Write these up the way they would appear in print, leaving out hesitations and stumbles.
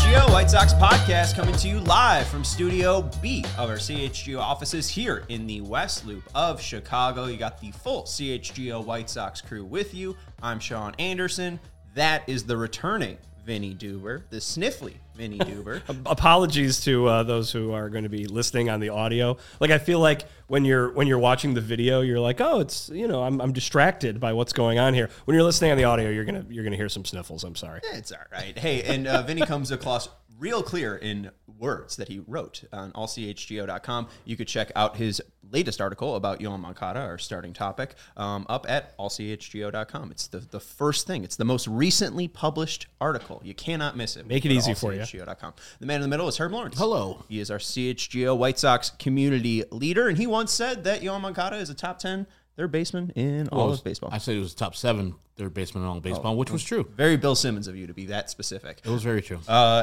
CHGO White Sox podcast coming to you live from Studio B of our CHGO offices here in the West Loop of Chicago. You got the full CHGO White Sox crew with you. I'm Sean Anderson. That is the returning Vinny Duber, the sniffly Vinny Duber. Apologies to those who are going to be listening on the audio. Like, I feel like when you're watching the video, you're like, oh, it's, I'm distracted by what's going on here. When you're listening on the audio, you're gonna hear some sniffles. I'm sorry. It's all right. Hey, and Vinny comes across real clear in words that he wrote on allchgo.com. You could check out his latest article about Yoan Moncada, our starting topic, up at allchgo.com. It's the first thing. It's the most recently published article. You cannot miss it. Make it easy for you. CHGO.com. The man in the middle is Herb Lawrence. Hello. He is our CHGO White Sox community leader, and he once said that Yoan Moncada is a top 10 third baseman in all of baseball. I said it was top 7 third baseman in all of baseball, which was true. Very Bill Simmons of you to be that specific. It was very true.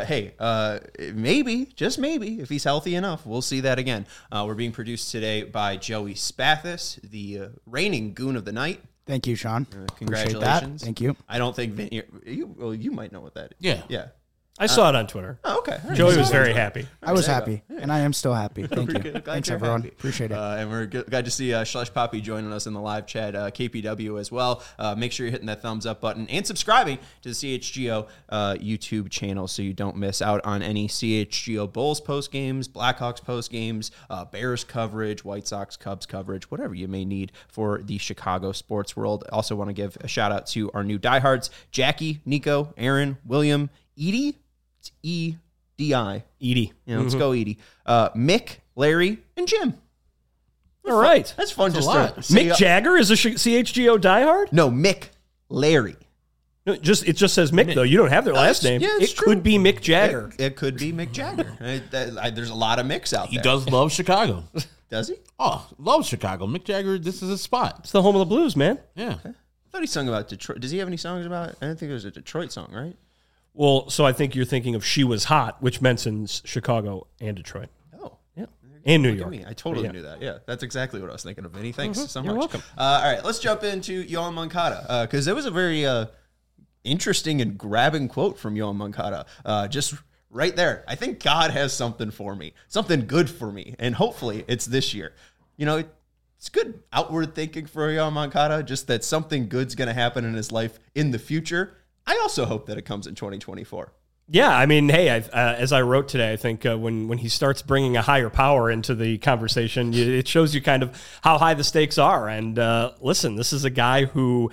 Maybe, just maybe, if he's healthy enough, we'll see that again. We're being produced today by Joey Spathis, the reigning goon of the night. Thank you, Sean. Congratulations. Thank you. I don't think you might know what that is. Yeah. Yeah. I saw it on Twitter. Oh, okay. Right. Joey was very happy. I was happy, and I am still happy. Thank you. Glad Thanks, you're everyone. happy. Appreciate it. And we're glad to see Slush Poppy joining us in the live chat, KPW as well. Make sure you're hitting that thumbs up button and subscribing to the CHGO YouTube channel so you don't miss out on any CHGO Bulls post games, Blackhawks post games, Bears coverage, White Sox, Cubs coverage, whatever you may need for the Chicago sports world. Also want to give a shout out to our new diehards, Jackie, Nico, Aaron, William, Edie. It's E-D-I. Edie. Yeah, let's go, Edie. Mick, Larry, and Jim. All right. That's fun. That's just a lot. to say, Mick Jagger is a CHGO diehard? No, Mick, Larry. No, it just says Mick, though. You don't have their last name. Yeah, it's it true. could be Mick Jagger. It could be Mick Jagger. There's a lot of Micks out He there. does love Chicago. Does he? Oh, loves Chicago. Mick Jagger, this is his spot. It's the home of the blues, man. Yeah. I thought he sung about Detroit. Does he have any songs about? I don't think there's a Detroit song, right? Well, so I think you're thinking of She Was Hot, which mentions Chicago and Detroit. Oh, Yeah. And New look York. at me. I totally Yeah. knew that. Yeah, that's exactly what I was thinking of, Vinny. Thanks so much. You're welcome. All right, let's jump into Yoan Moncada because there was a very interesting and grabbing quote from Yoan Moncada. Just right there. I think God has something for me, something good for me, and hopefully it's this year. It's good outward thinking for Yoan Moncada, just that something good's going to happen in his life in the future. I also hope that it comes in 2024. Yeah, I mean, hey, as I wrote today, I think when he starts bringing a higher power into the conversation, it shows you kind of how high the stakes are. And listen, this is a guy who,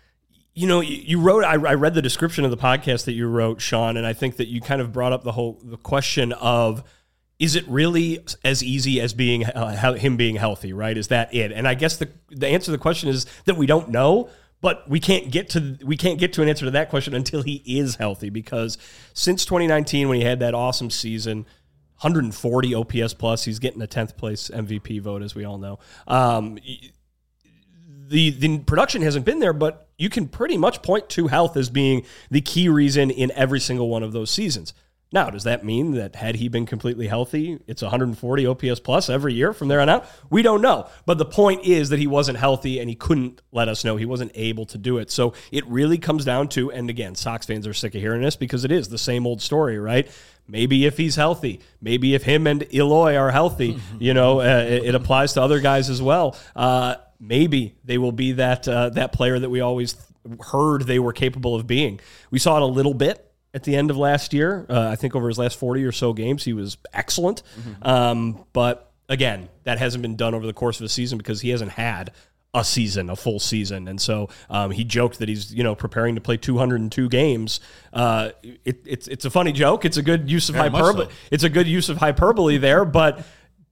you wrote. I read the description of the podcast that you wrote, Sean, and I think that you kind of brought up the question of, is it really as easy as being him being healthy? Right? Is that it? And I guess the answer to the question is that we don't know. But we can't get to an answer to that question until he is healthy, because since 2019, when he had that awesome season, 140 OPS plus, he's getting a 10th place MVP vote, as we all know. The production hasn't been there, but you can pretty much point to health as being the key reason in every single one of those seasons. Now, does that mean that had he been completely healthy, it's 140 OPS plus every year from there on out? We don't know. But the point is that he wasn't healthy and he couldn't let us know. He wasn't able to do it. So it really comes down to, and again, Sox fans are sick of hearing this because it is the same old story, right? Maybe if he's healthy, maybe if him and Eloy are healthy, it applies to other guys as well. Maybe they will be that player that we always heard they were capable of being. We saw it a little bit at the end of last year. I think over his last 40 or so games, he was excellent. But again, that hasn't been done over the course of a season because he hasn't had a full season. And so he joked that he's, preparing to play 202 games. It's a funny joke. It's a good use of hyperbole. So. It's a good use of hyperbole there, but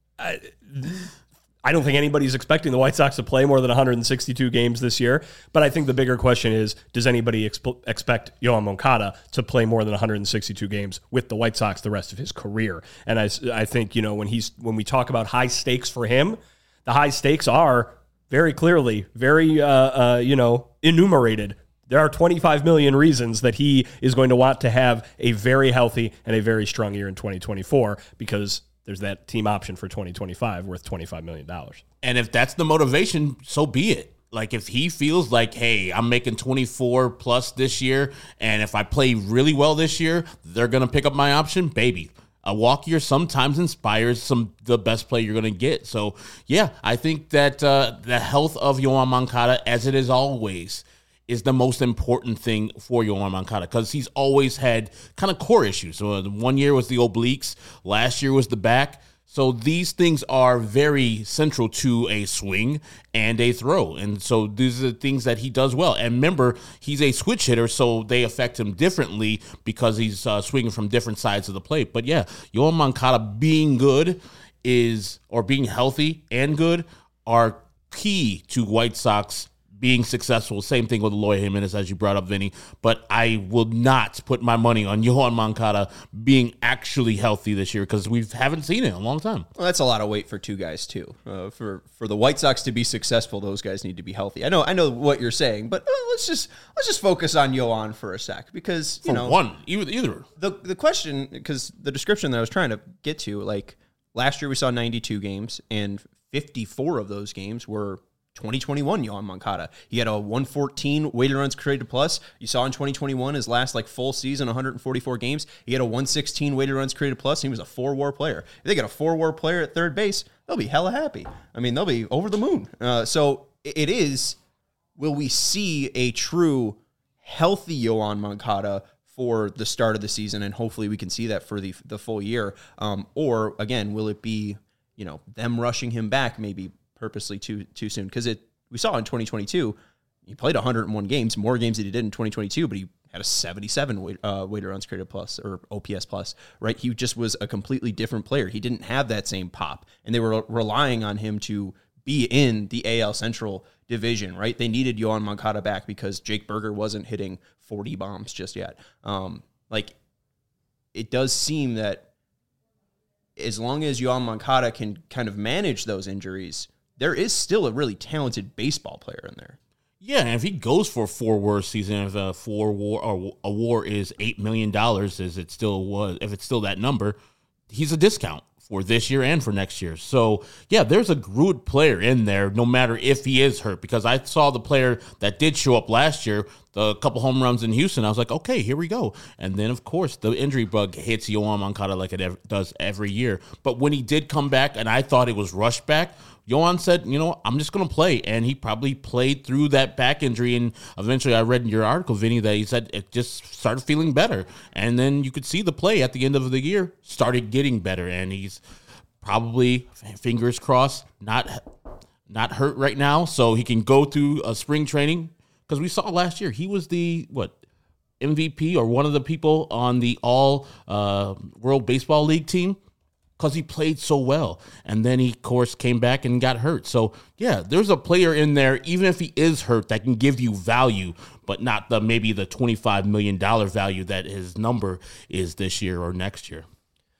I don't think anybody's expecting the White Sox to play more than 162 games this year. But I think the bigger question is, does anybody expect Yoan Moncada to play more than 162 games with the White Sox the rest of his career? And I think, when we talk about high stakes for him, the high stakes are very clearly, very, enumerated. There are 25 million reasons that he is going to want to have a very healthy and a very strong year in 2024 because there's that team option for 2025 worth $25 million. And if that's the motivation, so be it. Like if he feels like, hey, I'm making 24 plus this year, and if I play really well this year, they're going to pick up my option, baby. A walk year sometimes inspires the best play you're going to get. So, yeah, I think that the health of Yoan Moncada, as it is always, is the most important thing for Yoan Moncada because he's always had kind of core issues. So 1 year was the obliques, last year was the back. So these things are very central to a swing and a throw. And so these are the things that he does well. And remember, he's a switch hitter, so they affect him differently because he's swinging from different sides of the plate. But yeah, Yoan Moncada being good or being healthy and good are key to White Sox being successful. Same thing with Eloy Jimenez, as you brought up, Vinny. But I will not put my money on Yoan Moncada being actually healthy this year because we haven't seen it in a long time. Well, that's a lot of weight for two guys too. For the White Sox to be successful, those guys need to be healthy. I know what you're saying, but let's just focus on Yoan for a sec because Either the question, because the description that I was trying to get to, like last year we saw 92 games and 54 of those games were 2021 Yoan Moncada. He had a 114 weighted runs created plus. You saw in 2021 his last full season, 144 games. He had a 116 weighted runs created plus. And he was a 4-WAR player. If they get a 4-WAR player at third base, they'll be hella happy. I mean, they'll be over the moon. So it is. Will we see a true healthy Yoan Moncada for the start of the season, and hopefully we can see that for the full year? Or again, will it be them rushing him back maybe purposely too soon? Because we saw in 2022, he played 101 games, more games than he did in 2022, but he had a 77 weighted runs created plus or OPS plus, right? He just was a completely different player. He didn't have that same pop, and they were relying on him to be in the AL Central division, right? They needed Yoan Moncada back because Jake Berger wasn't hitting 40 bombs just yet. It does seem that as long as Yoan Moncada can kind of manage those injuries, there is still a really talented baseball player in there. Yeah, and if he goes for a 4-WAR season, if a 4-WAR or a WAR is $8 million, as it still was, if it's still that number, he's a discount for this year and for next year. So, yeah, there's a good player in there, no matter if he is hurt, because I saw the player that did show up last year, the couple home runs in Houston. I was like, okay, here we go. And then, of course, the injury bug hits Yoan Moncada like it does every year. But when he did come back, and I thought it was rushed back, Yoan said, I'm just going to play. And he probably played through that back injury. And eventually I read in your article, Vinny, that he said it just started feeling better. And then you could see the play at the end of the year started getting better. And he's probably, fingers crossed, not hurt right now. So he can go through a spring training. Because we saw last year, he was the, MVP or one of the people on the all World Baseball League team. Because he played so well. And then he, of course, came back and got hurt. So, yeah, there's a player in there, even if he is hurt, that can give you value, but not maybe the $25 million value that his number is this year or next year.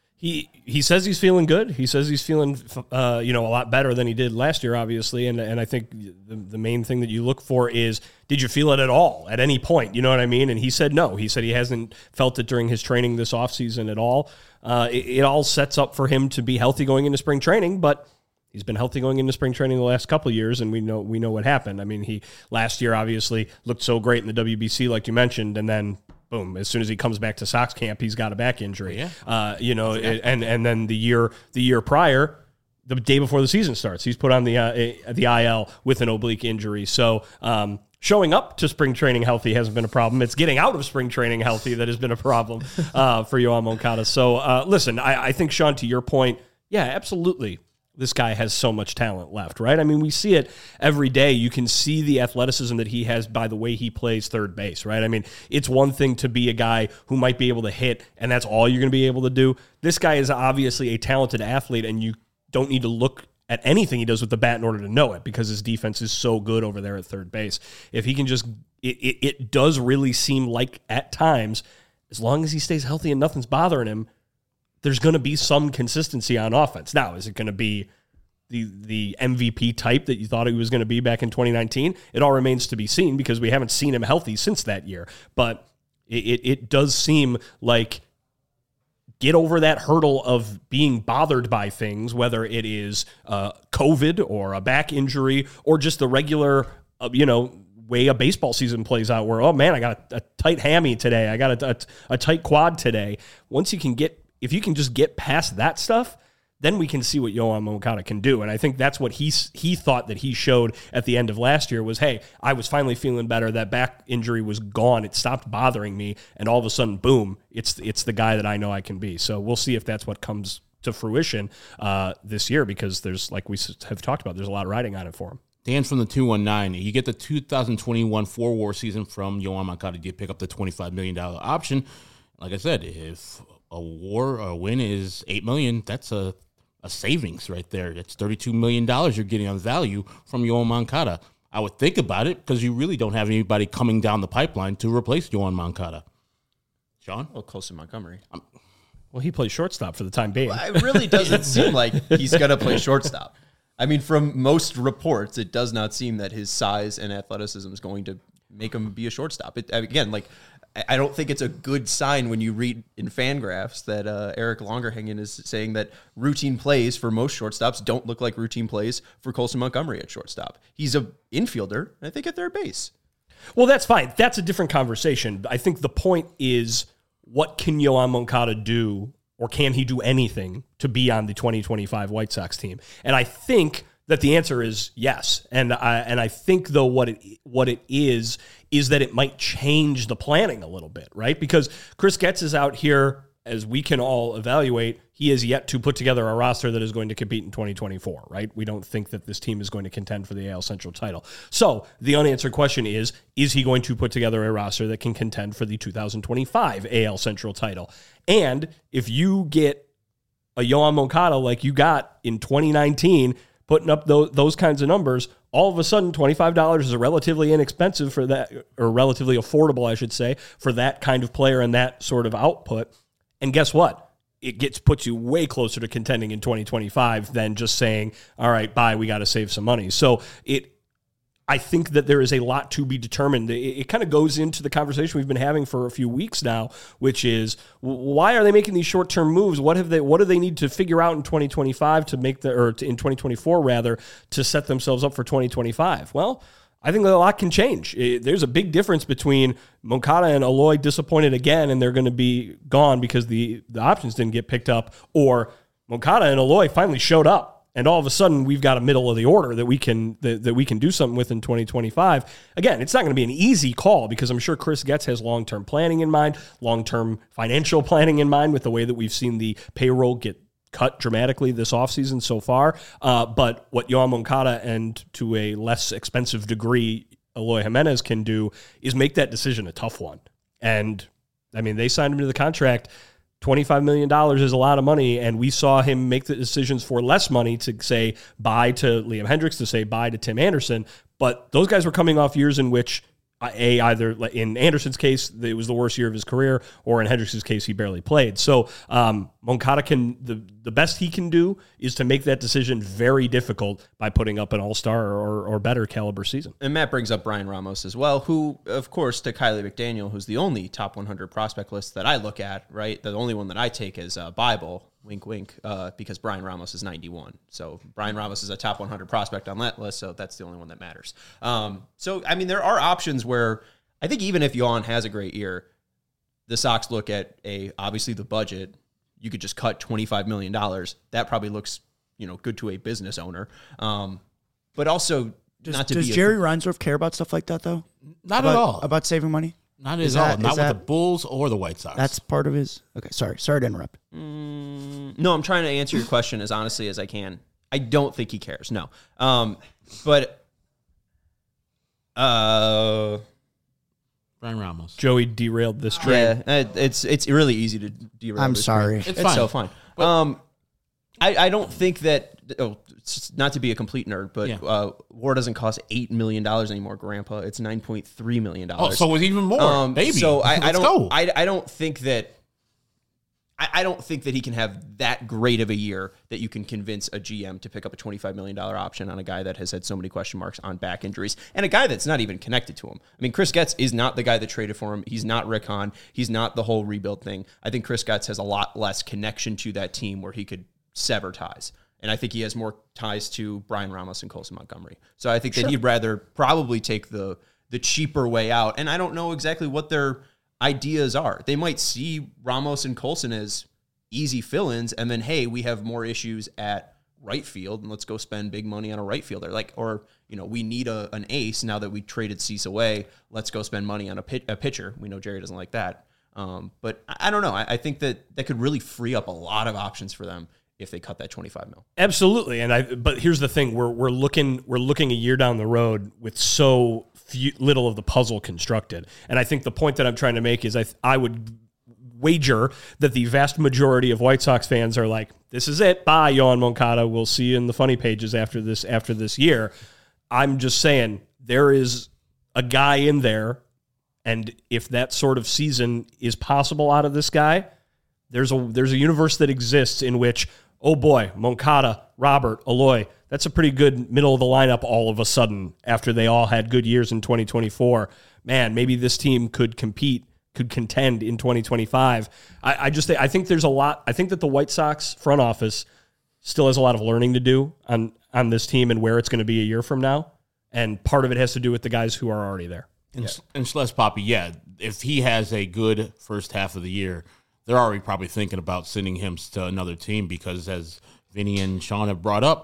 He says he's feeling good. He says he's feeling a lot better than he did last year, obviously. And I think the main thing that you look for is, did you feel it at all at any point? You know what I mean? And he said no. He said he hasn't felt it during his training this offseason at all. It all sets up for him to be healthy going into spring training, but he's been healthy going into spring training the last couple of years, and we know what happened. I mean, he last year obviously looked so great in the WBC, like you mentioned, and then boom, as soon as he comes back to Sox camp, he's got a back injury. Yeah. And then the year prior, the day before the season starts, he's put on the IL with an oblique injury. So showing up to spring training healthy hasn't been a problem. It's getting out of spring training healthy that has been a problem for Yoan Moncada. So listen, I think, Sean, to your point, yeah, absolutely. This guy has so much talent left, right? I mean, we see it every day. You can see the athleticism that he has by the way he plays third base, right? I mean, it's one thing to be a guy who might be able to hit, and that's all you're going to be able to do. This guy is obviously a talented athlete, and you don't need to look at anything he does with the bat in order to know it, because his defense is so good over there at third base. If he can just, it does really seem like at times, as long as he stays healthy and nothing's bothering him, there's going to be some consistency on offense. Now, is it going to be the MVP type that you thought he was going to be back in 2019? It all remains to be seen, because we haven't seen him healthy since that year. But it does seem like get over that hurdle of being bothered by things, whether it is COVID or a back injury or just the regular way a baseball season plays out where, oh man, I got a tight hammy today. I got a tight quad today. If you can just get past that stuff, then we can see what Yoan Moncada can do. And I think that's what he thought that he showed at the end of last year was, hey, I was finally feeling better. That back injury was gone. It stopped bothering me. And all of a sudden, boom, it's the guy that I know I can be. So we'll see if that's what comes to fruition this year, because there's, like we have talked about, there's a lot riding on it for him. Dan from the 219. You get the 2021 4-WAR season from Yoan Moncada. You pick up the $25 million option. Like I said, if a win is $8 million, that's a savings right there. That's $32 million you're getting on value from Yoan Moncada. I would think about it because you really don't have anybody coming down the pipeline to replace Yoan Moncada. Sean? Well, Colson Montgomery. Well, he plays shortstop for the time being. It really doesn't seem like he's going to play shortstop. I mean, from most reports, it does not seem that his size and athleticism is going to make him be a shortstop. I don't think it's a good sign when you read in Fangraphs that Eric Longerhagen is saying that routine plays for most shortstops don't look like routine plays for Colson Montgomery at shortstop. He's an infielder, I think, at third base. Well, that's fine. That's a different conversation. I think the point is, what can Yoan Moncada do, or can he do anything to be on the 2025 White Sox team? And I think that the answer is yes. And I think, though, what it is that it might change the planning a little bit, right? Because Chris Getz is out here, as we can all evaluate, he is yet to put together a roster that is going to compete in 2024, right? We don't think that this team is going to contend for the AL Central title. So the unanswered question is he going to put together a roster that can contend for the 2025 AL Central title? And if you get a Yoan Moncada like you got in 2019, putting up those kinds of numbers, all of a sudden $25 is a relatively inexpensive for that, or relatively affordable, I should say, for that kind of player and that sort of output. And guess what? It puts you way closer to contending in 2025 than just saying, all right, bye, we got to save some money. So I think that there is a lot to be determined. It kind of goes into the conversation we've been having for a few weeks now, which is, why are they making these short-term moves? What do they need to figure out in 2025 to make in 2024 rather, to set themselves up for 2025? Well, I think that a lot can change. There's a big difference between Moncada and Eloy disappointed again, and they're going to be gone because the options didn't get picked up, or Moncada and Eloy finally showed up. And all of a sudden, we've got a middle of the order that we can do something with in 2025. Again, it's not going to be an easy call, because I'm sure Chris Getz has long-term planning in mind, long-term financial planning in mind, with the way that we've seen the payroll get cut dramatically this offseason so far. But what Yoan Moncada, and to a less expensive degree, Eloy Jimenez can do, is make that decision a tough one. And, I mean, they signed him to the contract. $25 million is a lot of money, and we saw him make the decisions for less money to say bye to Liam Hendriks, to say bye to Tim Anderson. But those guys were coming off years in which, either in Anderson's case, it was the worst year of his career, or in Hendriks' case, he barely played. So Moncada the best he can do is to make that decision very difficult by putting up an all-star or better caliber season. And Matt brings up Brian Ramos as well, who, of course, to Kylie McDaniel, who's the only top 100 prospect list that I look at, right? The only one that I take is Bible, wink, wink, because Brian Ramos is 91. So Brian Ramos is a top 100 prospect on that list, so that's the only one that matters. So, I mean, there are options where I think even if Yoan has a great year, the Sox look at obviously the budget. You could just cut $25 million. That probably looks, good to a business owner. But also, does Jerry Reinsdorf care about stuff like that, though? Not at all. About saving money? Not at all. Not with the Bulls or the White Sox. That's part of his... Okay, sorry to interrupt. No, I'm trying to answer your question as honestly as I can. I don't think he cares, no. But... Brian Ramos. Joey derailed this train. Yeah, it's really easy to derail. I'm sorry. It's fine. So fine. I don't think that. Not to be a complete nerd, but WAR doesn't cost $8 million anymore, Grandpa. It's $9.3 million. Oh, so it's even more. Baby. So I don't think that. I don't think that he can have that great of a year that you can convince a GM to pick up a $25 million option on a guy that has had so many question marks on back injuries, and a guy that's not even connected to him. I mean, Chris Getz is not the guy that traded for him. He's not Rick Hahn. He's not the whole rebuild thing. I think Chris Getz has a lot less connection to that team where he could sever ties. And I think he has more ties to Brian Ramos and Colson Montgomery. So I think that he'd rather probably take the cheaper way out. And I don't know exactly what their ideas are. They might see Ramos and Colson as easy fill-ins, and then, hey, we have more issues at right field, and let's go spend big money on a right fielder. Or we need an ace now that we traded Cease away. Let's go spend money on a pitcher. We know Jerry doesn't like that. But I don't know. I think that could really free up a lot of options for them if they cut that $25 million. Absolutely. But here's the thing: we're looking a year down the road with so little of the puzzle constructed. And I think the point that I'm trying to make is I would wager that the vast majority of White Sox fans are like, this is it. Bye, Yoán Moncada. We'll see you in the funny pages after this year. I'm just saying there is a guy in there, and if that sort of season is possible out of this guy, there's a universe that exists in which, oh boy, Moncada, Robert, Eloy, that's a pretty good middle of the lineup all of a sudden after they all had good years in 2024. Man, maybe this team could contend in 2025. I think there's a lot. I think that the White Sox front office still has a lot of learning to do on this team and where it's going to be a year from now. And part of it has to do with the guys who are already there. And Schles Papi, if he has a good first half of the year, they're already probably thinking about sending him to another team because, as Vinny and Sean have brought up,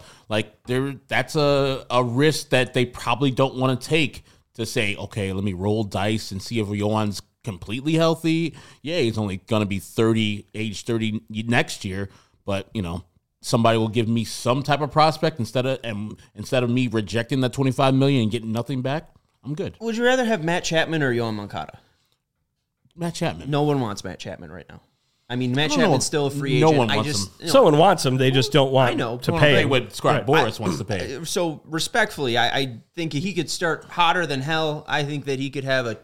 that's a risk that they probably don't want to take to say, okay, let me roll dice and see if Yoán's completely healthy. Yeah, he's only going to be age 30 next year, but somebody will give me some type of prospect instead of me rejecting that $25 million and getting nothing back. I'm good. Would you rather have Matt Chapman or Yoán Moncada? Matt Chapman. No one wants Matt Chapman right now. I mean, Matt Chapman's still a free agent. No one wants him. Someone wants him. They just don't want to pay him. What Scott Boras wants to pay. So respectfully, I think he could start hotter than hell. I think that he could have a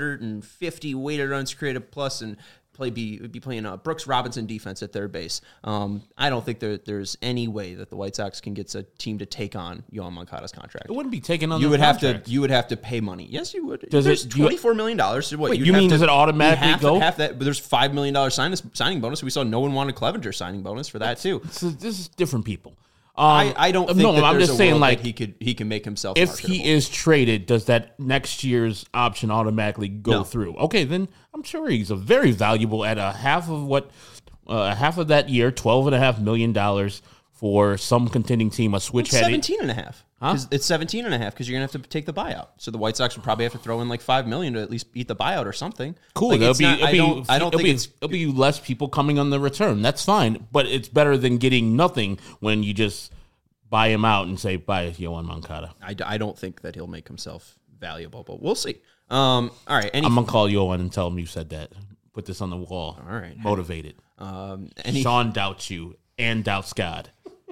250 weighted runs created plus and be playing Brooks Robinson defense at third base. I don't think there's any way that the White Sox can get a team to take on Yoán Moncada's contract. It wouldn't be taken on. You would have to pay money. Yes, you would. Does there's $24 million. What you mean? Does it automatically go? Half that, but there's $5 million signing bonus. We saw no one wanted Clevenger signing bonus for that too. So this is different people. I don't think that I'm there's just a saying, world that he can make himself if marketable. he is traded, does that next year's option automatically go through? Okay, then I'm sure he's a very valuable at half of that year, $12.5 million for some contending team, a switch head. 17.5. It's 17.5 because you're gonna have to take the buyout. So the White Sox would probably have to throw in like $5 million to at least eat the buyout or something. Cool. It'll be less people coming on the return. That's fine, but it's better than getting nothing when you just buy him out and say bye, Yoán Moncada. I don't think that he'll make himself valuable, but we'll see. All right, I'm gonna call Yoán and tell him you said that. Put this on the wall. All right, motivated. Sean doubts you and doubts God.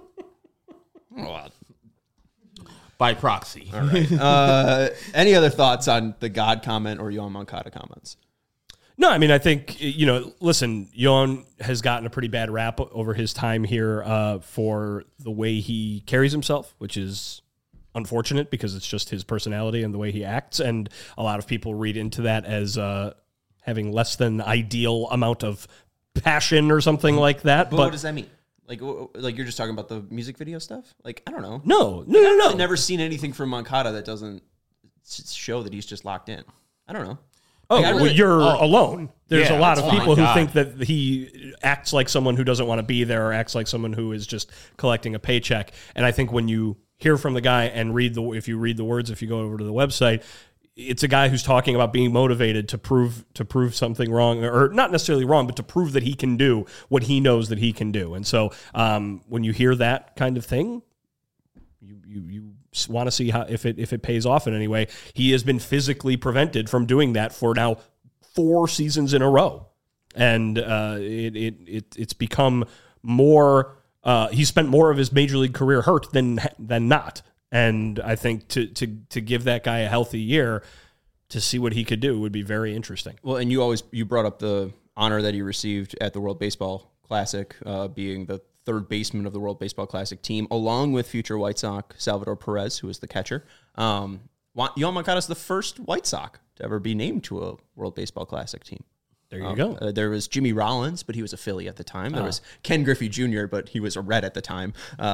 By proxy. All right. Any other thoughts on the God comment or Yoán Moncada comments? No, I mean, I think, listen, Yoán has gotten a pretty bad rap over his time here for the way he carries himself, which is unfortunate because it's just his personality and the way he acts. And a lot of people read into that as having less than ideal amount of passion or something like that. But what does that mean? Like you're just talking about the music video stuff? Like, I don't know. No. I've never seen anything from Moncada that doesn't show that he's just locked in. I don't know. You're alone. There's a lot of people who God. think that he acts like someone who doesn't want to be there or acts like someone who is just collecting a paycheck. And I think when you hear from the guy and if you read the words, if you go over to the website, it's a guy who's talking about being motivated to prove something wrong, or not necessarily wrong, but to prove that he can do what he knows that he can do. And so when you hear that kind of thing, you want to see how if it pays off in any way. He has been physically prevented from doing that for now 4 seasons in a row, and it's become more. He spent more of his major league career hurt than not. And I think to give that guy a healthy year to see what he could do would be very interesting. Well, and you brought up the honor that he received at the World Baseball Classic, being the third baseman of the World Baseball Classic team, along with future White Sox Salvador Perez, who is the catcher. Yoán Moncada is the first White Sox to ever be named to a World Baseball Classic team. There you go. There was Jimmy Rollins, but he was a Philly at the time. There was Ken Griffey Jr., but he was a Red at the time.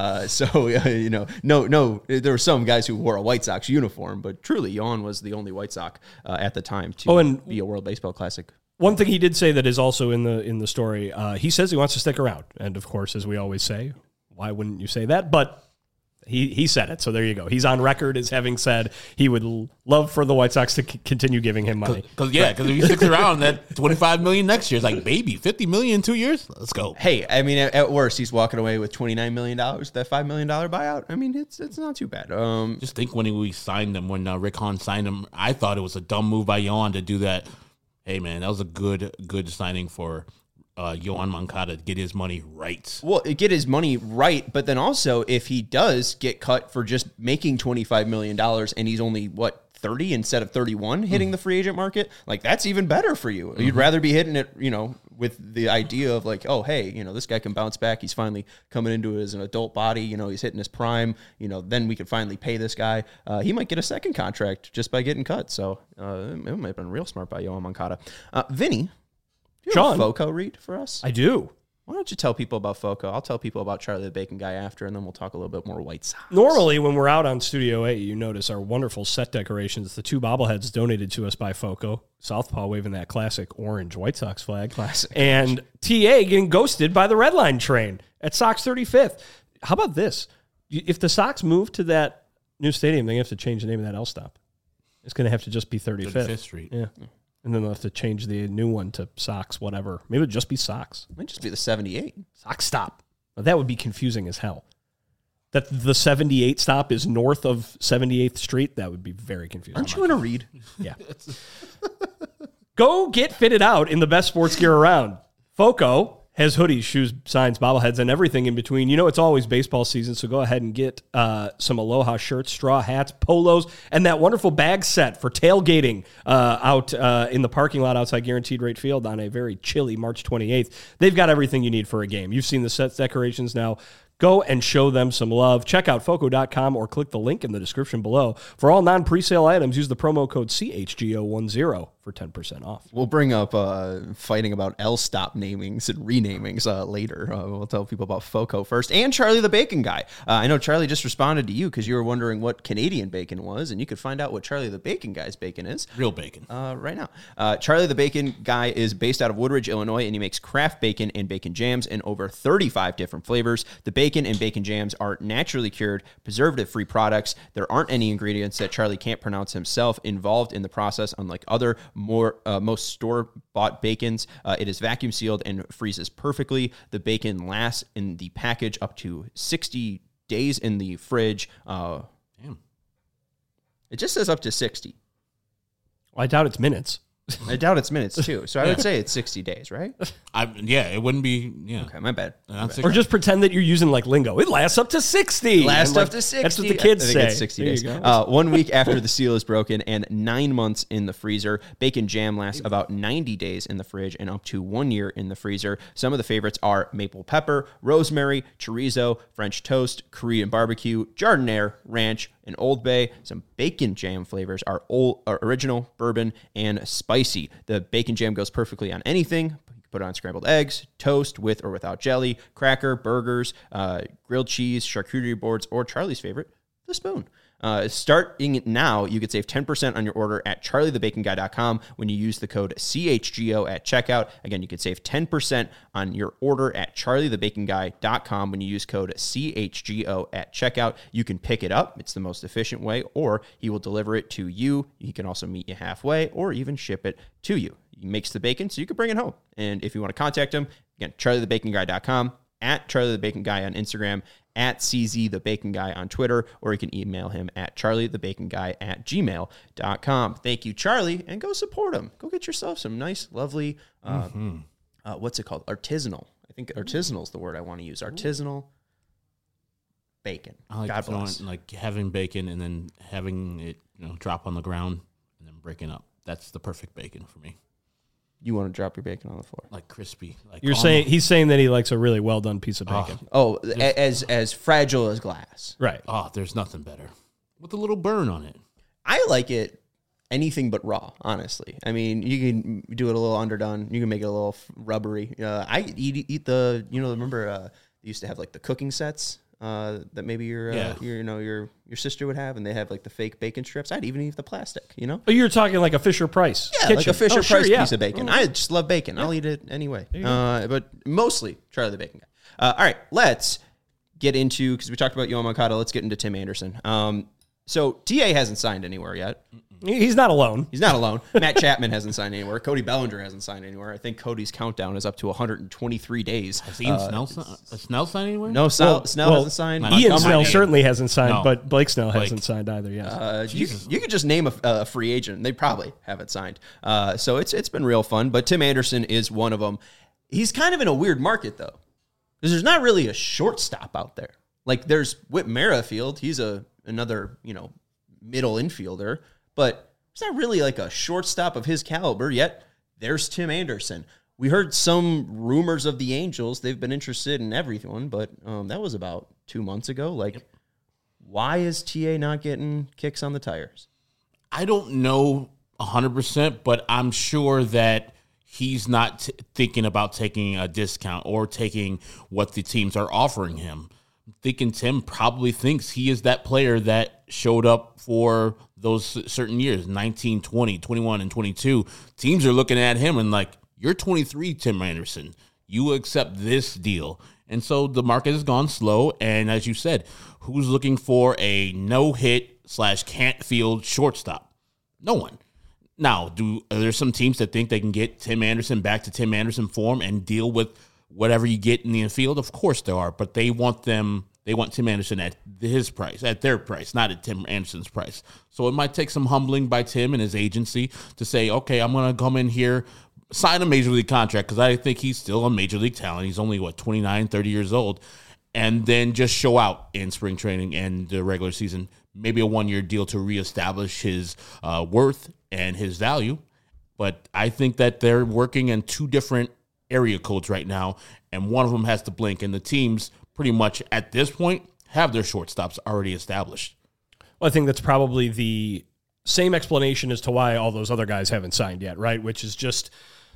There were some guys who wore a White Sox uniform, but truly, Yohan was the only White Sox at the time to be a World Baseball Classic. One thing he did say that is also in the story, he says he wants to stick around. And, of course, as we always say, why wouldn't you say that? But he said it, so there you go. He's on record as having said he would love for the White Sox to continue giving him money. Because if he sticks around, that $25 million next year is like, baby, $50 million in 2 years? Let's go. Hey, I mean, at worst, he's walking away with $29 million, that $5 million buyout. I mean, it's not too bad. Just think when we signed him, when Rick Hahn signed him, I thought it was a dumb move by Yohan to do that. Hey, man, that was a good signing for Yohan Moncada to get his money right. Well, get his money right, but then also if he does get cut for just making $25 million and he's only, 30 instead of 31 hitting the free agent market, like that's even better for you. You'd rather be hitting it, with the idea of like, oh, hey, this guy can bounce back. He's finally coming into his an adult body. He's hitting his prime. Then we can finally pay this guy. He might get a second contract just by getting cut. So it might have been real smart by Yohan Moncada. Vinny, do you have a FOCO read for us? I do. Why don't you tell people about FOCO? I'll tell people about Charlie the Bacon Guy after, and then we'll talk a little bit more White Sox. Normally, when we're out on Studio A, you notice our wonderful set decorations. The 2 bobbleheads donated to us by FOCO. Southpaw waving that classic orange White Sox flag. Classic. And TA getting ghosted by the Red Line train at Sox 35th. How about this? If the Sox move to that new stadium, they have to change the name of that L stop. It's going to have to just be 35th Street. Yeah. And then they'll have to change the new one to Sox, whatever. Maybe it'll just be Sox. It might just be the 78. Sox stop. Now, that would be confusing as hell. That the 78 stop is north of 78th Street, that would be very confusing. Aren't you in a read? Yeah. Go get fitted out in the best sports gear around. FOCO has hoodies, shoes, signs, bobbleheads, and everything in between. It's always baseball season, so go ahead and get some Aloha shirts, straw hats, polos, and that wonderful bag set for tailgating out in the parking lot outside Guaranteed Rate Field on a very chilly March 28th. They've got everything you need for a game. You've seen the set decorations now. Go and show them some love. Check out FOCO.com or click the link in the description below. For all non-presale items, use the promo code CHGO10 for 10% off. We'll bring up fighting about L-stop namings and renamings later. We'll tell people about FOCO first. And Charlie the Bacon Guy. I know Charlie just responded to you because you were wondering what Canadian bacon was, and you could find out what Charlie the Bacon Guy's bacon is. Real bacon. Right now. Charlie the Bacon Guy is based out of Woodridge, Illinois, and he makes craft bacon and bacon jams in over 35 different flavors. The bacon and bacon jams are naturally cured, preservative-free products. There aren't any ingredients that Charlie can't pronounce himself involved in the process, unlike other most store-bought bacons. It is vacuum sealed and freezes perfectly. The bacon lasts in the package up to 60 days in the fridge. Damn. It just says up to 60. Well, I doubt it's minutes. I doubt it's minutes, too. So I would say it's 60 days, right? It wouldn't be, Okay, my bad. Or just pretend that you're using like lingo. It lasts up to 60. Lasts up to 60. That's what the kids I think say. It's 60 days. 1 week after the seal is broken and 9 months in the freezer. Bacon jam lasts about 90 days in the fridge and up to 1 year in the freezer. Some of the favorites are maple pepper, rosemary, chorizo, French toast, Korean barbecue, giardiniera, ranch, and Old Bay. Some bacon jam flavors are original, bourbon, and spicy. The bacon jam goes perfectly on anything. You can put it on scrambled eggs, toast with or without jelly, cracker, burgers, grilled cheese, charcuterie boards, or Charlie's favorite, the spoon. Starting now, you could save 10% on your order at charliethebaconguy.com when you use the code CHGO at checkout. Again, you could save 10% on your order at charliethebaconguy.com when you use code CHGO at checkout. You can pick it up. It's the most efficient way, or he will deliver it to you. He can also meet you halfway or even ship it to you. He makes the bacon so you can bring it home. And if you want to contact him, again, charliethebaconguy.com, at charliethebaconguy on Instagram, at CZ the Bacon Guy on Twitter, or you can email him at charliethebaconguy@gmail.com. Thank you, Charlie, and go support him. Go get yourself some nice, lovely, what's it called? Artisanal. I think artisanal is the word I want to use. Artisanal bacon. I like God bless. like having bacon and then having it drop on the ground and then breaking up. That's the perfect bacon for me. You want to drop your bacon on the floor, like crispy. Like he's saying that he likes a really well done piece of bacon. As fragile as glass. Right. Oh, there's nothing better with a little burn on it. I like it anything but raw, honestly. I mean, you can do it a little underdone. You can make it a little rubbery. I eat the, remember they used to have like the cooking sets that maybe your sister would have, and they have like the fake bacon strips. I'd even eat the plastic, Oh, you're talking like a Fisher Price kitchen. Like a Fisher Price piece of bacon. I just love bacon. I'll eat it anyway. But mostly Charlie the Bacon Guy. All right, let's get into, because we talked about Yoan Moncada, let's get into Tim Anderson. So TA hasn't signed anywhere yet. He's not alone. He's not alone. Matt Chapman hasn't signed anywhere. Cody Bellinger hasn't signed anywhere. I think Cody's countdown is up to 123 days. Has Snell signed anywhere? No, Snell hasn't signed. Ian Snell certainly hasn't signed, but Blake Snell hasn't signed either. Yes. You could just name a free agent. They probably haven't signed. So it's been real fun. But Tim Anderson is one of them. He's kind of in a weird market, though, because there's not really a shortstop out there. Like, there's Whit Merrifield. He's another middle infielder. But it's not really like a shortstop of his caliber, yet there's Tim Anderson. We heard some rumors of the Angels. They've been interested in everyone, but that was about 2 months ago. Why is TA not getting kicks on the tires? I don't know 100%, but I'm sure that he's not thinking about taking a discount or taking what the teams are offering him. I'm thinking Tim probably thinks he is that player that showed up for those certain years, 19, 20, 21, and 22. Teams are looking at him and like, you're 23, Tim Anderson. You accept this deal. And so the market has gone slow. And as you said, who's looking for a no-hit / can't field shortstop? No one. Now, are there some teams that think they can get Tim Anderson back to Tim Anderson form and deal with whatever you get in the infield? Of course there are, but they want Tim Anderson at his price, at their price, not at Tim Anderson's price. So it might take some humbling by Tim and his agency to say, okay, I'm going to come in here, sign a major league contract, because I think he's still a major league talent. He's only, 29, 30 years old, and then just show out in spring training and the regular season, maybe a one-year deal to reestablish his worth and his value. But I think that they're working in two different area codes right now, and one of them has to blink, and the teams pretty much at this point have their shortstops already established. Well, I think that's probably the same explanation as to why all those other guys haven't signed yet, right? Which is just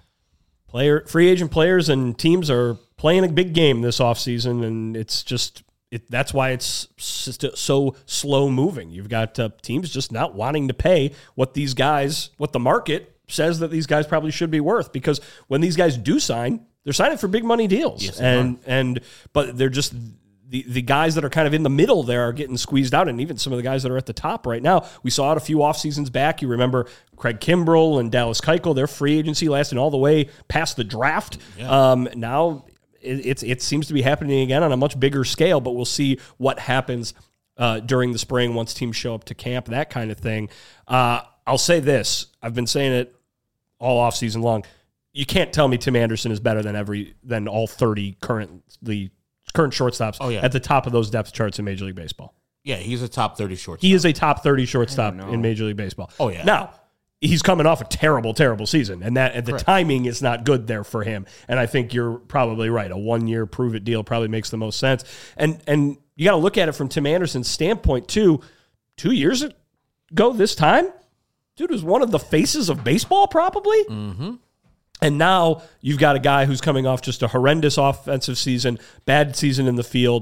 free agent players and teams are playing a big game this offseason, and it's just that's why it's so slow moving. You've got teams just not wanting to pay what the market says that these guys probably should be worth, because when these guys do sign, they're signing for big money deals. Yes, but they're just the guys that are kind of in the middle there are getting squeezed out, and even some of the guys that are at the top right now. We saw it a few off seasons back. You remember Craig Kimbrell and Dallas Keuchel, their free agency lasting all the way past the draft. Yeah. Now it seems to be happening again on a much bigger scale, but we'll see what happens during the spring once teams show up to camp, that kind of thing. I'll say this. I've been saying it all off season long. You can't tell me Tim Anderson is better than all 30 current shortstops at the top of those depth charts in Major League Baseball. Yeah, he's a top 30 shortstop. He is a top 30 shortstop in Major League Baseball. Oh, yeah. Now, he's coming off a terrible, terrible season, and the timing is not good there for him. And I think you're probably right. A one-year prove-it deal probably makes the most sense. And you got to look at it from Tim Anderson's standpoint, too. 2 years ago this time, dude was one of the faces of baseball, probably. Mm-hmm. And now you've got a guy who's coming off just a horrendous offensive season, bad season in the field.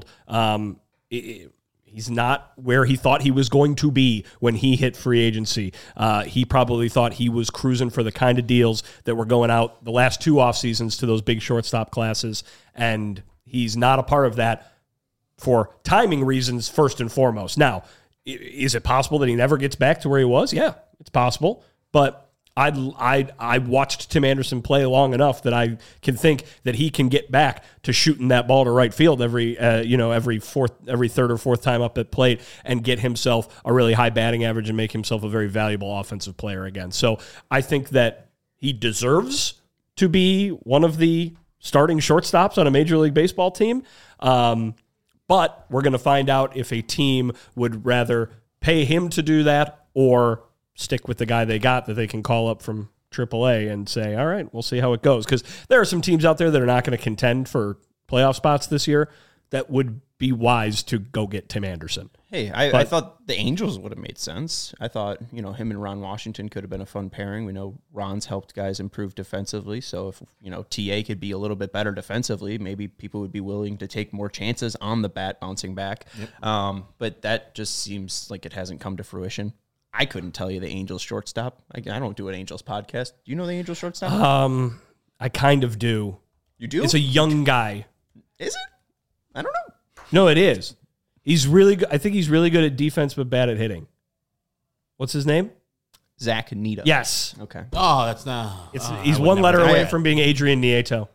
He's not where he thought he was going to be when he hit free agency. He probably thought he was cruising for the kind of deals that were going out the last two off seasons to those big shortstop classes, and he's not a part of that for timing reasons first and foremost. Now, is it possible that he never gets back to where he was? Yeah, it's possible, but I watched Tim Anderson play long enough that I can think that he can get back to shooting that ball to right field every third or fourth time up at plate and get himself a really high batting average and make himself a very valuable offensive player again. So I think that he deserves to be one of the starting shortstops on a Major League Baseball team. But we're going to find out if a team would rather pay him to do that or stick with the guy they got that they can call up from AAA and say, all right, we'll see how it goes. Because there are some teams out there that are not going to contend for playoff spots this year that would be wise to go get Tim Anderson. Hey, I thought the Angels would have made sense. I thought, him and Ron Washington could have been a fun pairing. We know Ron's helped guys improve defensively. So if, TA could be a little bit better defensively, maybe people would be willing to take more chances on the bat bouncing back. Yep. But that just seems like it hasn't come to fruition. I couldn't tell you the Angels shortstop. I don't do an Angels podcast. Do you know the Angels shortstop? I kind of do. You do? It's a young guy. Is it? I don't know. No, it is. He's really good. I think he's really good at defense, but bad at hitting. What's his name? Zach Neto. Yes. Okay. Oh, that's not. He's one letter away from being Adrian Nieto.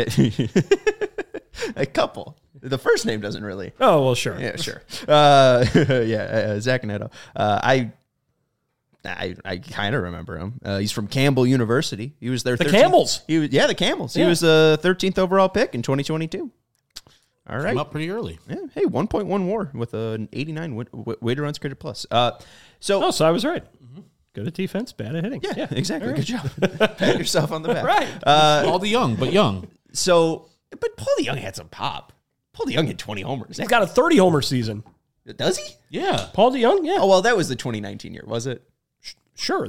A couple. The first name doesn't really. Oh, well, sure. Yeah, sure. Zach Neto. I kind of remember him. He's from Campbell University. He was there. The Camels. The Camels. Yeah. He was the 13th overall pick in 2022. All right. Came up pretty early. Yeah. Hey, 1.1 WAR with an 89 weighted runs created plus. So I was right. Mm-hmm. Good at defense, bad at hitting. Yeah, exactly. Right. Good job. Pat yourself on the back. Right. All the young, but young. So, but Paul DeJong had some pop. Paul DeJong had 20 homers. He's got a 30-homer season. Does he? Yeah. Paul DeJong, yeah. Oh, well, that was the 2019 year, was it? Sure.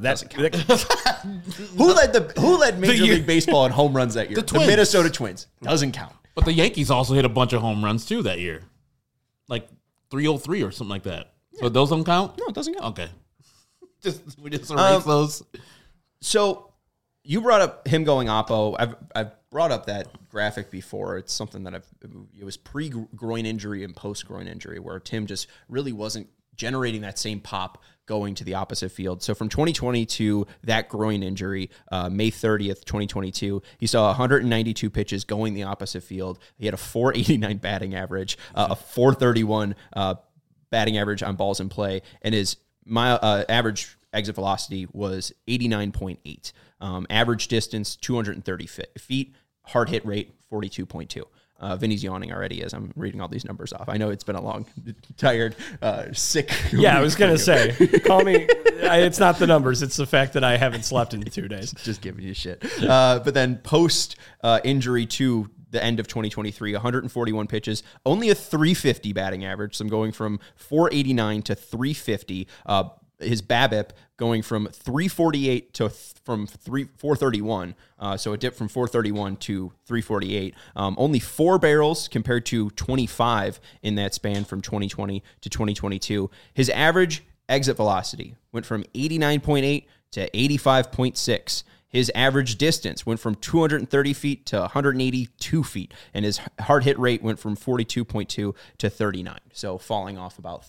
Who led Major League Baseball in home runs that year? The Minnesota Twins. Doesn't count. But the Yankees also hit a bunch of home runs, too, that year. Like 303 or something like that. Yeah. So those don't count? No, it doesn't count. Okay. We just erase those. So you brought up him going oppo. I've brought up that graphic before. It's something that it was pre-groin injury and post-groin injury where Tim just really wasn't generating that same pop going to the opposite field. So from 2020 to that groin injury, May 30th, 2022, he saw 192 pitches going the opposite field. He had a 489 batting average, a 431 batting average on balls in play, and his average exit velocity was 89.8. Average distance, 230 feet. Hard hit rate, 42.2. Vinny's yawning already as I'm reading all these numbers off. I know it's been a long, tired, sick Yeah, I was going to say, call me. It's not the numbers. It's the fact that I haven't slept in 2 days. Just giving you shit. But then post-injury to the end of 2023, 141 pitches, only a 350 batting average. So I'm going from 489 to 350. His BABIP going from 348 to from 431. So it dipped from 431 to 348. Only 4 barrels compared to 25 in that span from 2020 to 2022. His average exit velocity went from 89.8 to 85.6. His average distance went from 230 feet to 182 feet, and his hard hit rate went from 42.2 to 39. So falling off about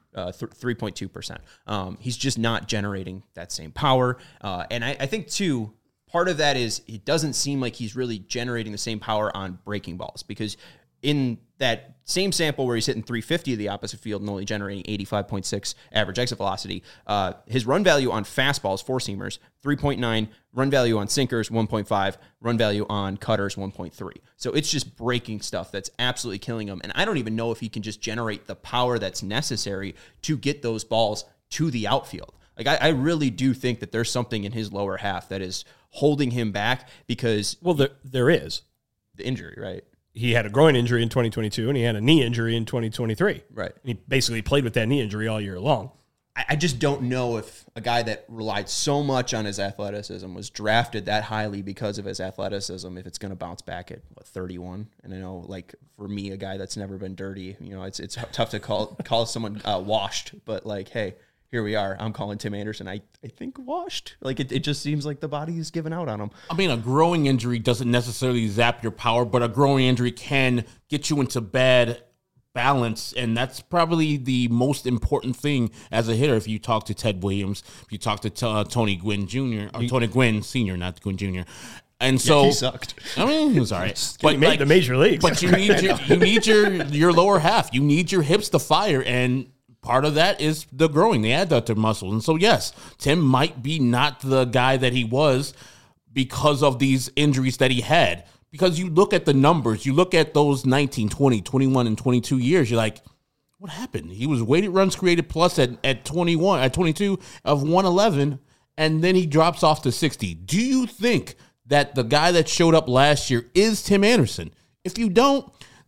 3.2%. He's just not generating that same power. And I think, too, part of that is it doesn't seem like he's really generating the same power on breaking balls, because in that same sample where he's hitting 350 of the opposite field and only generating 85.6 average exit velocity, his run value on fastballs, four-seamers, 3.9, run value on sinkers, 1.5, run value on cutters, 1.3. So it's just breaking stuff that's absolutely killing him. And I don't even know if he can just generate the power that's necessary to get those balls to the outfield. Like, I really do think that there's something in his lower half that is holding him back because... Well, there is. The injury, right? He had a groin injury in 2022, and he had a knee injury in 2023. Right. He basically played with that knee injury all year long. I just don't know if a guy that relied so much on his athleticism was drafted that highly because of his athleticism, if it's going to bounce back at 31. And I know, like, for me, a guy that's never been dirty, it's tough to call someone washed, but like, hey, here we are. I'm calling Tim Anderson, I think, washed. Like, it just seems like the body is giving out on him. I mean, a growing injury doesn't necessarily zap your power, but a growing injury can get you into bad balance, and that's probably the most important thing as a hitter. If you talk to Ted Williams, if you talk to Tony Gwynn Jr., or Tony Gwynn Sr., not Gwynn Jr., and so he sucked. I mean, he was all right, but he made the major leagues. But you need your lower half. You need your hips to fire, and part of that is the growing, the adductor muscle. And so, yes, Tim might be not the guy that he was because of these injuries that he had. Because you look at the numbers, you look at those 19, 20, 21, and 22 years, you're like, what happened? He was weighted runs created plus at 22 of 111, and then he drops off to 60. Do you think that the guy that showed up last year is Tim Anderson? If you don't,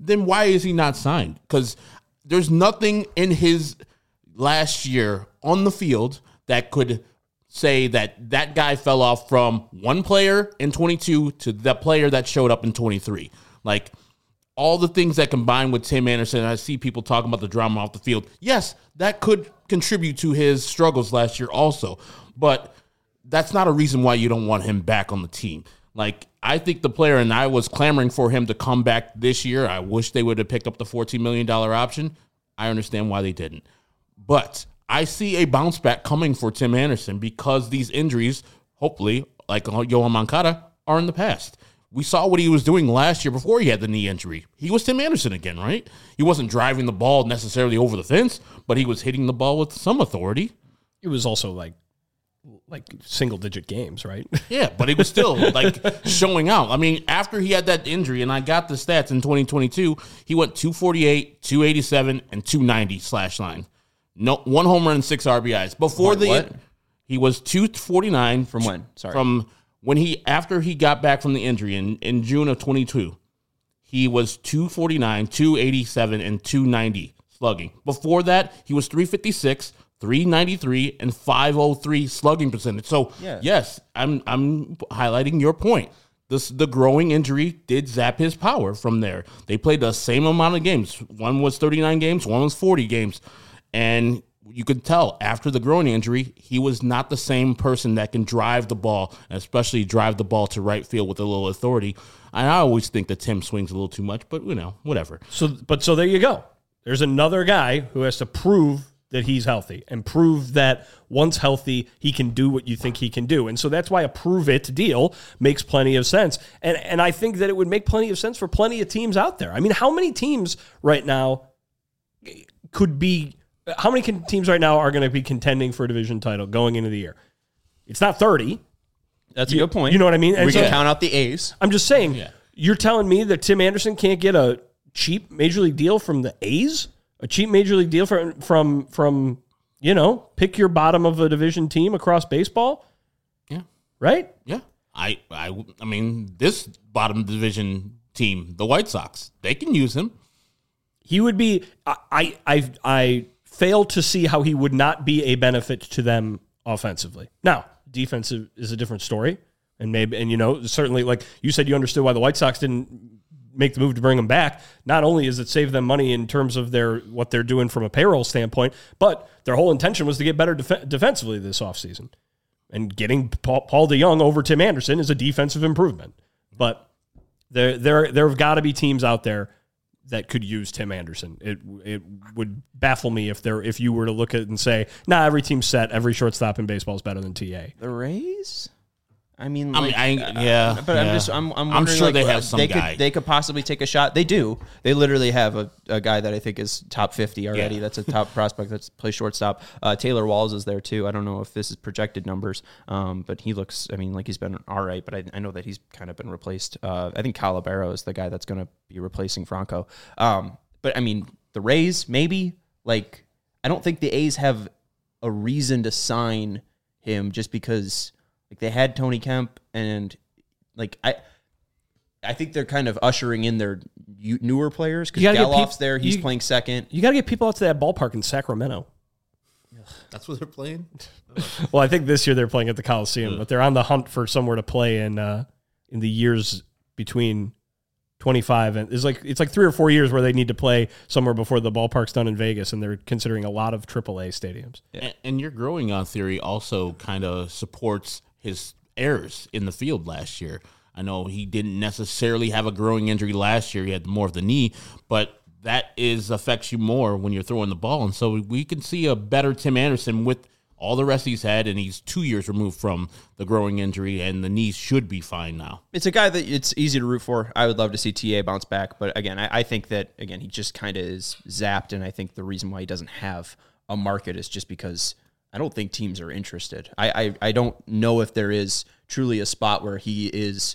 then why is he not signed? Because there's nothing in his last year on the field that could say that that guy fell off from one player in 22 to the player that showed up in 23. Like, all the things that combine with Tim Anderson, I see people talking about the drama off the field. Yes, that could contribute to his struggles last year also. But that's not a reason why you don't want him back on the team. Like, I think the player, and I was clamoring for him to come back this year. I wish they would have picked up the $14 million option. I understand why they didn't. But I see a bounce back coming for Tim Anderson because these injuries, hopefully, like Yohan Moncada, are in the past. We saw what he was doing last year before he had the knee injury. He was Tim Anderson again, right? He wasn't driving the ball necessarily over the fence, but he was hitting the ball with some authority. It was also like single-digit games, right? Yeah, but he was still showing out. I mean, after he had that injury, and I got the stats in 2022, he went 248, 287, and 290 slash line. No, 1 home run and 6 RBIs. Before he was 249 from when? Sorry, from when after he got back from the injury in June of 22. He was 249, 287, and 290 slugging. Before that, he was 356. 393 and 503 slugging percentage. So, yes, I'm highlighting your point. The growing injury did zap his power from there. They played the same amount of games. One was 39 games, one was 40 games. And you could tell after the growing injury, he was not the same person that can drive the ball, especially drive the ball to right field with a little authority. And I always think that Tim swings a little too much, but, whatever. So there you go. There's another guy who has to prove that he's healthy and prove that once healthy, he can do what you think he can do. And so that's why a prove it deal makes plenty of sense. And I think that it would make plenty of sense for plenty of teams out there. I mean, how many teams right now teams right now are going to be contending for a division title going into the year? It's not 30. That's a good point. You know what I mean? And we can count out the A's. I'm just saying, You're telling me that Tim Anderson can't get a cheap major league deal from the A's? A cheap major league deal from pick your bottom of a division team across baseball? Yeah. Right? Yeah. I mean, this bottom division team, the White Sox, they can use him. He would be I fail to see how he would not be a benefit to them offensively. Now, defensive is a different story. And certainly, like you said, you understood why the White Sox didn't make the move to bring him back. Not only is it save them money in terms of what they're doing from a payroll standpoint, but their whole intention was to get better defensively this offseason. And getting Paul DeJong over Tim Anderson is a defensive improvement. But there have got to be teams out there that could use Tim Anderson. It would baffle me if you were to look at it and say, every team's set, every shortstop in baseball is better than TA. The Rays? I'm sure they have some guy. They could possibly take a shot. They do. They literally have a guy that I think is top 50 already. Yeah. That's a top prospect that plays shortstop. Taylor Walls is there too. I don't know if this is projected numbers, but he looks, like he's been all right, but I know that he's kind of been replaced. I think Calabero is the guy that's going to be replacing Franco. But the Rays, maybe. I don't think the A's have a reason to sign him just because they had Tony Kemp, and I think they're kind of ushering in their newer players because Geloff's there. He's playing second. You got to get people out to that ballpark in Sacramento. That's where they're playing? Well, I think this year they're playing at the Coliseum, but they're on the hunt for somewhere to play in the years between 25 and it's like 3 or 4 years where they need to play somewhere before the ballpark's done in Vegas, and they're considering a lot of AAA stadiums. Yeah. And your growing on theory also kind of supports his errors in the field last year. I know he didn't necessarily have a growing injury last year. He had more of the knee, but that affects you more when you're throwing the ball. And so we can see a better Tim Anderson with all the rest he's had, and he's 2 years removed from the growing injury, and the knees should be fine now. It's a guy that it's easy to root for. I would love to see TA bounce back, but again, I think that, he just kind of is zapped, and I think the reason why he doesn't have a market is just because I don't think teams are interested. I don't know if there is truly a spot where he is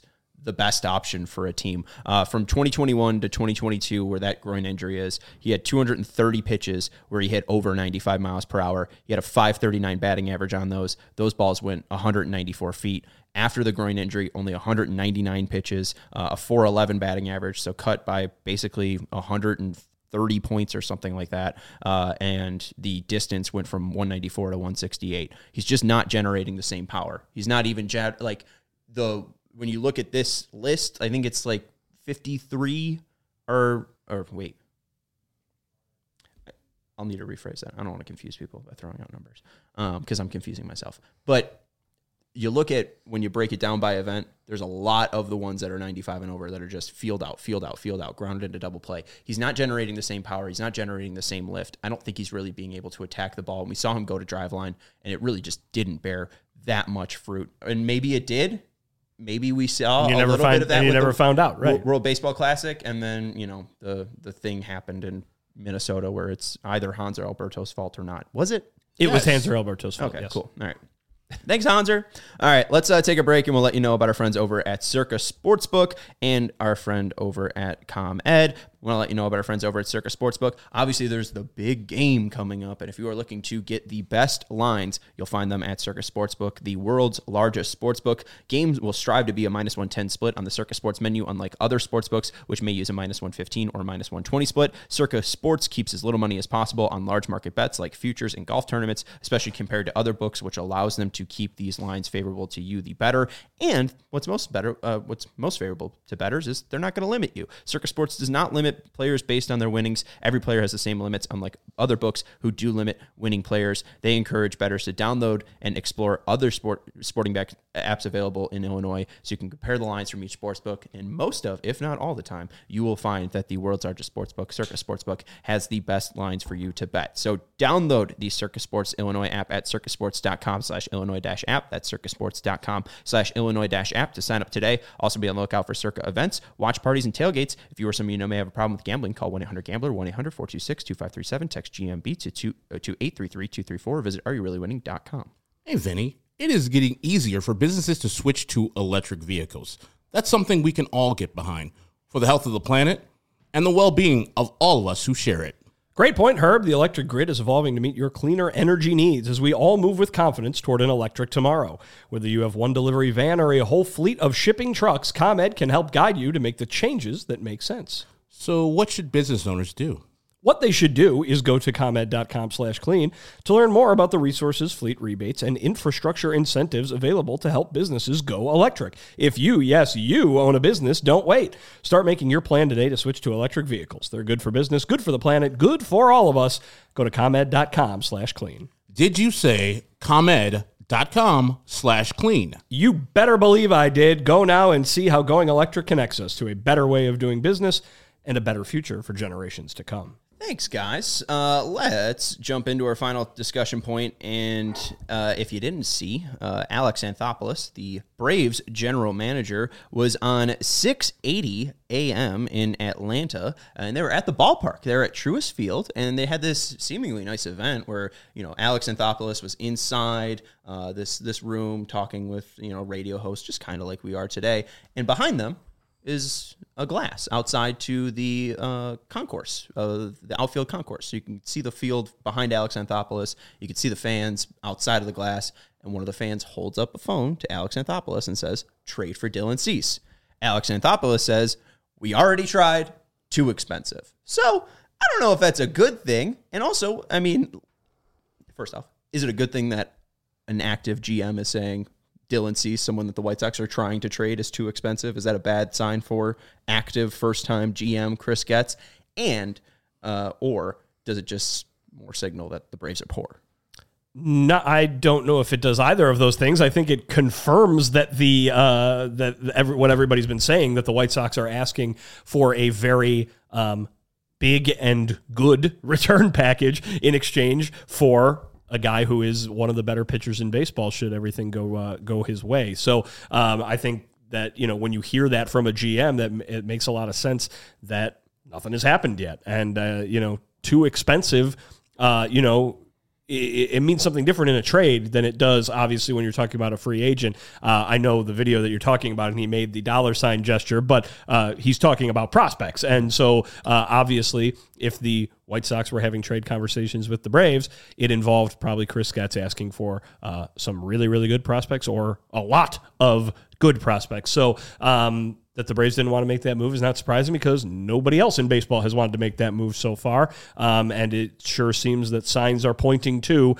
the best option for a team. From 2021 to 2022, where that groin injury is, he had 230 pitches where he hit over 95 miles per hour. He had a 539 batting average on those. Those balls went 194 feet. After the groin injury, only 199 pitches, a 411 batting average, so cut by basically 130 points or something like that. And the distance went from 194 to 168. He's just not generating the same power. He's not even when you look at this list, I think it's like 53 or wait. I'll need to rephrase that. I don't want to confuse people by throwing out numbers because I'm confusing myself. But you look at, when you break it down by event, there's a lot of the ones that are 95 and over that are just field out, grounded into double play. He's not generating the same power. He's not generating the same lift. I don't think he's really being able to attack the ball. And we saw him go to drive line, and it really just didn't bear that much fruit. And maybe it did. Maybe we saw a little bit of that. And you never found out, right? World Baseball Classic, and then the thing happened in Minnesota where it's either Hanser Alberto's fault or not. Was it? It was Hanser Alberto's fault. Okay, yes. cool. All right. Thanks, Hanser. All right, let's take a break, and we'll let you know about our friends over at Circa Sportsbook and our friend over at ComEd. We want to let you know about our friends over at Circa Sportsbook. Obviously, there's the big game coming up, and if you are looking to get the best lines, you'll find them at Circa Sportsbook, the world's largest sportsbook. Games will strive to be a -110 split on the Circa Sports menu, unlike other sportsbooks, which may use a -115 or -120 split. Circa Sports keeps as little money as possible on large market bets like futures and golf tournaments, especially compared to other books, which allows them to keep these lines favorable to you, the better. And what's most favorable to bettors is they're not going to limit you. Circa Sports does not limit players based on their winnings. Every player has the same limits, unlike other books who do limit winning players. They encourage bettors to download and explore other sporting back apps available in Illinois so you can compare the lines from each sportsbook. And most of, if not all the time, you will find that the world's largest sportsbook, Circa Sportsbook, has the best lines for you to bet. So download the Circa Sports Illinois app at circasports.com/Illinois-app. That's circasports.com/Illinois-app to sign up today. Also be on the lookout for Circa events, watch parties, and tailgates. If you or someone you know may have a problem with gambling, call 1-800-GAMBLER, 1-800-426-2537, text GMB to 833-234, or visit areyourreallywinning.com. Hey, Vinny, it is getting easier for businesses to switch to electric vehicles. That's something we can all get behind for the health of the planet and the well-being of all of us who share it. Great point, Herb. The electric grid is evolving to meet your cleaner energy needs as we all move with confidence toward an electric tomorrow. Whether you have one delivery van or a whole fleet of shipping trucks, ComEd can help guide you to make the changes that make sense. So what should business owners do? What they should do is go to ComEd.com/clean to learn more about the resources, fleet rebates, and infrastructure incentives available to help businesses go electric. If you, yes, you own a business, don't wait. Start making your plan today to switch to electric vehicles. They're good for business, good for the planet, good for all of us. Go to ComEd.com/clean. Did you say ComEd.com/clean? You better believe I did. Go now and see how going electric connects us to a better way of doing business and a better future for generations to come. Thanks, guys. Let's jump into our final discussion point. And if you didn't see, Alex Anthopoulos, the Braves general manager, was on 680 AM in Atlanta, and they were at the ballpark. They were at Truist Field, and they had this seemingly nice event where, Alex Anthopoulos was inside this room talking with, radio hosts, just kind of like we are today. And behind them is a glass outside to the concourse, the outfield concourse. So you can see the field behind Alex Anthopoulos. You can see the fans outside of the glass, and one of the fans holds up a phone to Alex Anthopoulos and says, "Trade for Dylan Cease." Alex Anthopoulos says, "We already tried, too expensive." So I don't know if that's a good thing. And also, first off, is it a good thing that an active GM is saying Dylan Cease, someone that the White Sox are trying to trade, is too expensive? Is that a bad sign for active first-time GM Chris Getz? And or does it just more signal that the Braves are poor? No, I don't know if it does either of those things. I think it confirms that what everybody's been saying, that the White Sox are asking for a very big and good return package in exchange for a guy who is one of the better pitchers in baseball should everything go his way. So I think that, when you hear that from a GM, that it makes a lot of sense that nothing has happened yet. And, too expensive, it means something different in a trade than it does, obviously, when you're talking about a free agent. I know the video that you're talking about, and he made the $ gesture, but he's talking about prospects. And so, obviously, if the White Sox were having trade conversations with the Braves, it involved probably Chris Getz asking for some really, really good prospects or a lot of good prospects. So, that the Braves didn't want to make that move is not surprising because nobody else in baseball has wanted to make that move so far. And it sure seems that signs are pointing to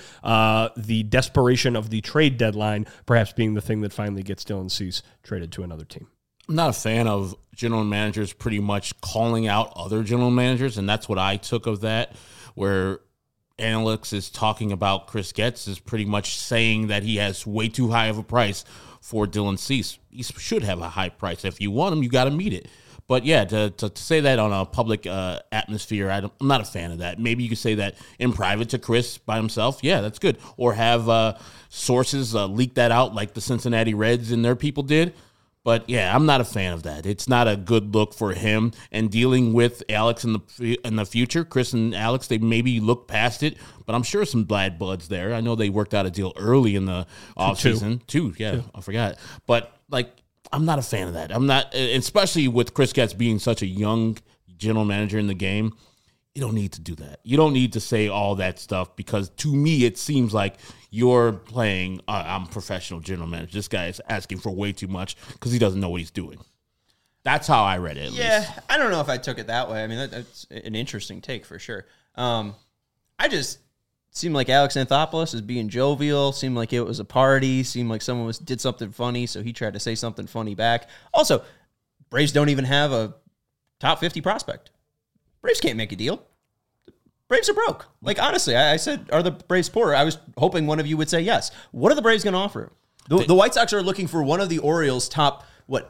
the desperation of the trade deadline perhaps being the thing that finally gets Dylan Cease traded to another team. I'm not a fan of general managers pretty much calling out other general managers, and that's what I took of that, where Alex is talking about Chris Getz is pretty much saying that he has way too high of a price for Dylan Cease. He should have a high price. If you want him, you got to meet it. But yeah, to say that on a public atmosphere, I'm not a fan of that. Maybe you could say that in private to Chris by himself. Yeah, that's good. Or have sources leak that out like the Cincinnati Reds and their people did. But yeah, I'm not a fan of that. It's not a good look for him. And dealing with Alex in the future, Chris and Alex, they maybe look past it. But I'm sure some bad bloods there. I know they worked out a deal early in the offseason. Two. I forgot. But like, I'm not a fan of that. I'm not, especially with Chris Getz being such a young general manager in the game. You don't need to do that. You don't need to say all that stuff because to me, it seems like you're playing, I'm a professional general manager. This guy is asking for way too much because he doesn't know what he's doing. That's how I read it, at least. I don't know if I took it that way. I mean, that's an interesting take for sure. I just seemed like Alex Anthopoulos was being jovial, seemed like it was a party, seemed like someone did something funny, so he tried to say something funny back. Also, Braves don't even have a top 50 prospect. Braves can't make a deal. Braves are broke. Like, honestly, I said, are the Braves poor? I was hoping one of you would say yes. What are the Braves going to offer? The White Sox are looking for one of the Orioles' top,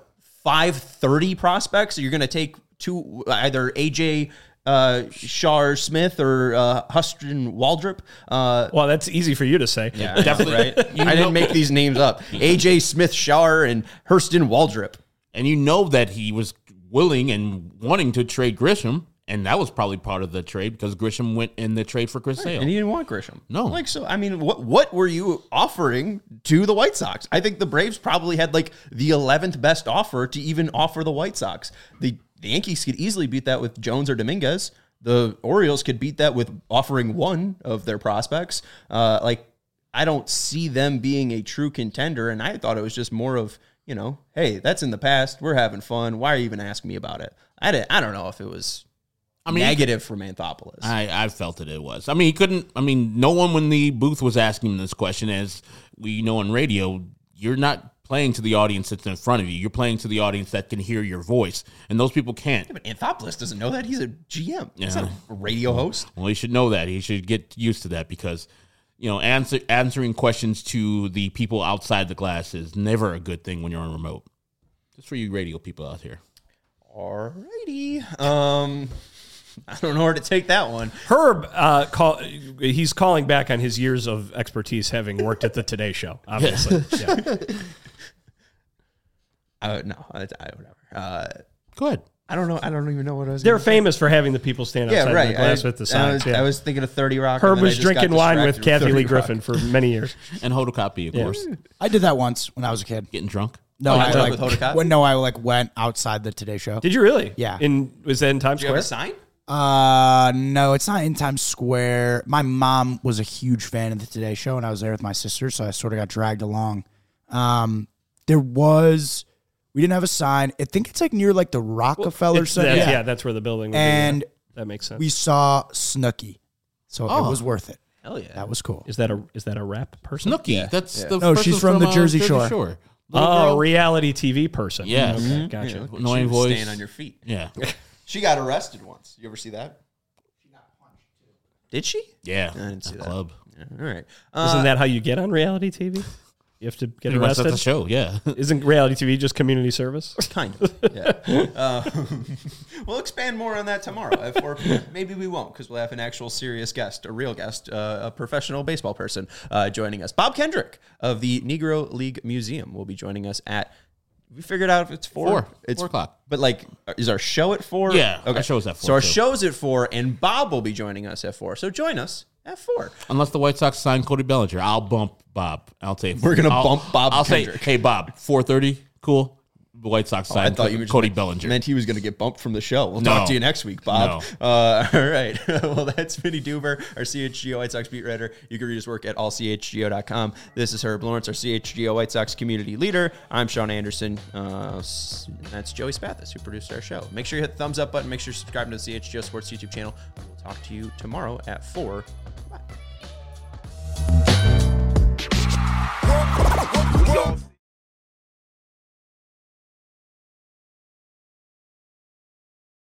530 prospects? So you're going to take either A.J. Shar Smith or Huston Waldrop. Well, that's easy for you to say. Yeah, definitely, right? I didn't make these names up. A.J. Smith Shar and Hurston Waldrop. And you know that he was willing and wanting to trade Grisham. And that was probably part of the trade because Grisham went in the trade for Chris Sale. And he didn't want Grisham. No. I mean, what were you offering to the White Sox? I think the Braves probably had the 11th best offer to even offer the White Sox. The Yankees could easily beat that with Jones or Dominguez. The Orioles could beat that with offering one of their prospects. I don't see them being a true contender. And I thought it was just more of, hey, that's in the past. We're having fun. Why are you even asking me about it? I don't know if it was negative from Anthopoulos. I felt it was. I mean, he couldn't. I mean, no one when the booth was asking him this question, as we know on radio, you're not playing to the audience that's in front of you. You're playing to the audience that can hear your voice, and those people can't. Yeah, but Anthopoulos doesn't know that. He's a GM. He's not a radio host. Well, he should know that. He should get used to that because, answering questions to the people outside the glass is never a good thing when you're on remote. Just for you radio people out here. Alrighty. I don't know where to take that one. Herb, he's calling back on his years of expertise having worked at the Today Show, obviously. No, whatever. Go ahead. I don't know. I don't even know what I was. They're famous for having the people stand outside the glass with the signs. I was thinking of 30 Rock. Herb was drinking wine with Kathy Lee Griffin for many years. And Hoda Kotb, of course. I did that once when I was a kid. Getting drunk? No, I with Hoda Kotb? I went outside the Today Show. Did you really? Yeah. Was that in Times Did you Square? have a sign? No, it's not in Times Square. My mom was a huge fan of the Today Show, and I was there with my sister, so I sort of got dragged along. We didn't have a sign. I think it's near the Rockefeller Center. Yeah, that's where the building would and be. That makes sense. We saw Snooki, so it was worth it. Hell yeah. That was cool. Is that a rap person? Snooki. Yeah. That's Yeah. the No, person she's from the Jersey Shore. Oh, reality TV person. Yeah. Okay, gotcha. Yeah, look at Annoying you voice. Staying on your feet. Yeah. She got arrested once. You ever see that? She got punched too. Did she? Yeah. I didn't see that. Club. Yeah, all right. Isn't that how you get on reality TV? You have to get Pretty much arrested? that's the show, yeah. Isn't reality TV just community service? Kind of, yeah. We'll expand more on that tomorrow at 4 p.m. Maybe we won't because we'll have an actual serious guest, a real guest, a professional baseball person joining us. Bob Kendrick of the Negro League Museum will be joining us at, we figured out if it's 4. It's 4 o'clock. But is our show at 4? Yeah, Okay. our show's at 4. So our too. show's at 4, and Bob will be joining us at 4. So join us at 4. Unless the White Sox sign Cody Bellinger, I'll bump Bob. I'll say We're gonna bump Bob I'll Kendrick. say, hey Bob, 4:30, cool. The White Sox sign Cody Bellinger. Meant he was going to get bumped from the show. We'll No. talk to you next week, Bob. No. All right. Well, that's Vinny Duber, our CHGO White Sox beat writer. You can read his work at allchgo.com. This is Herb Lawrence, our CHGO White Sox community leader. I'm Sean Anderson. That's Joey Spathis, who produced our show. Make sure you hit the thumbs up button. Make sure you're subscribing to the CHGO Sports YouTube channel. We'll talk to you tomorrow at 4. Bye.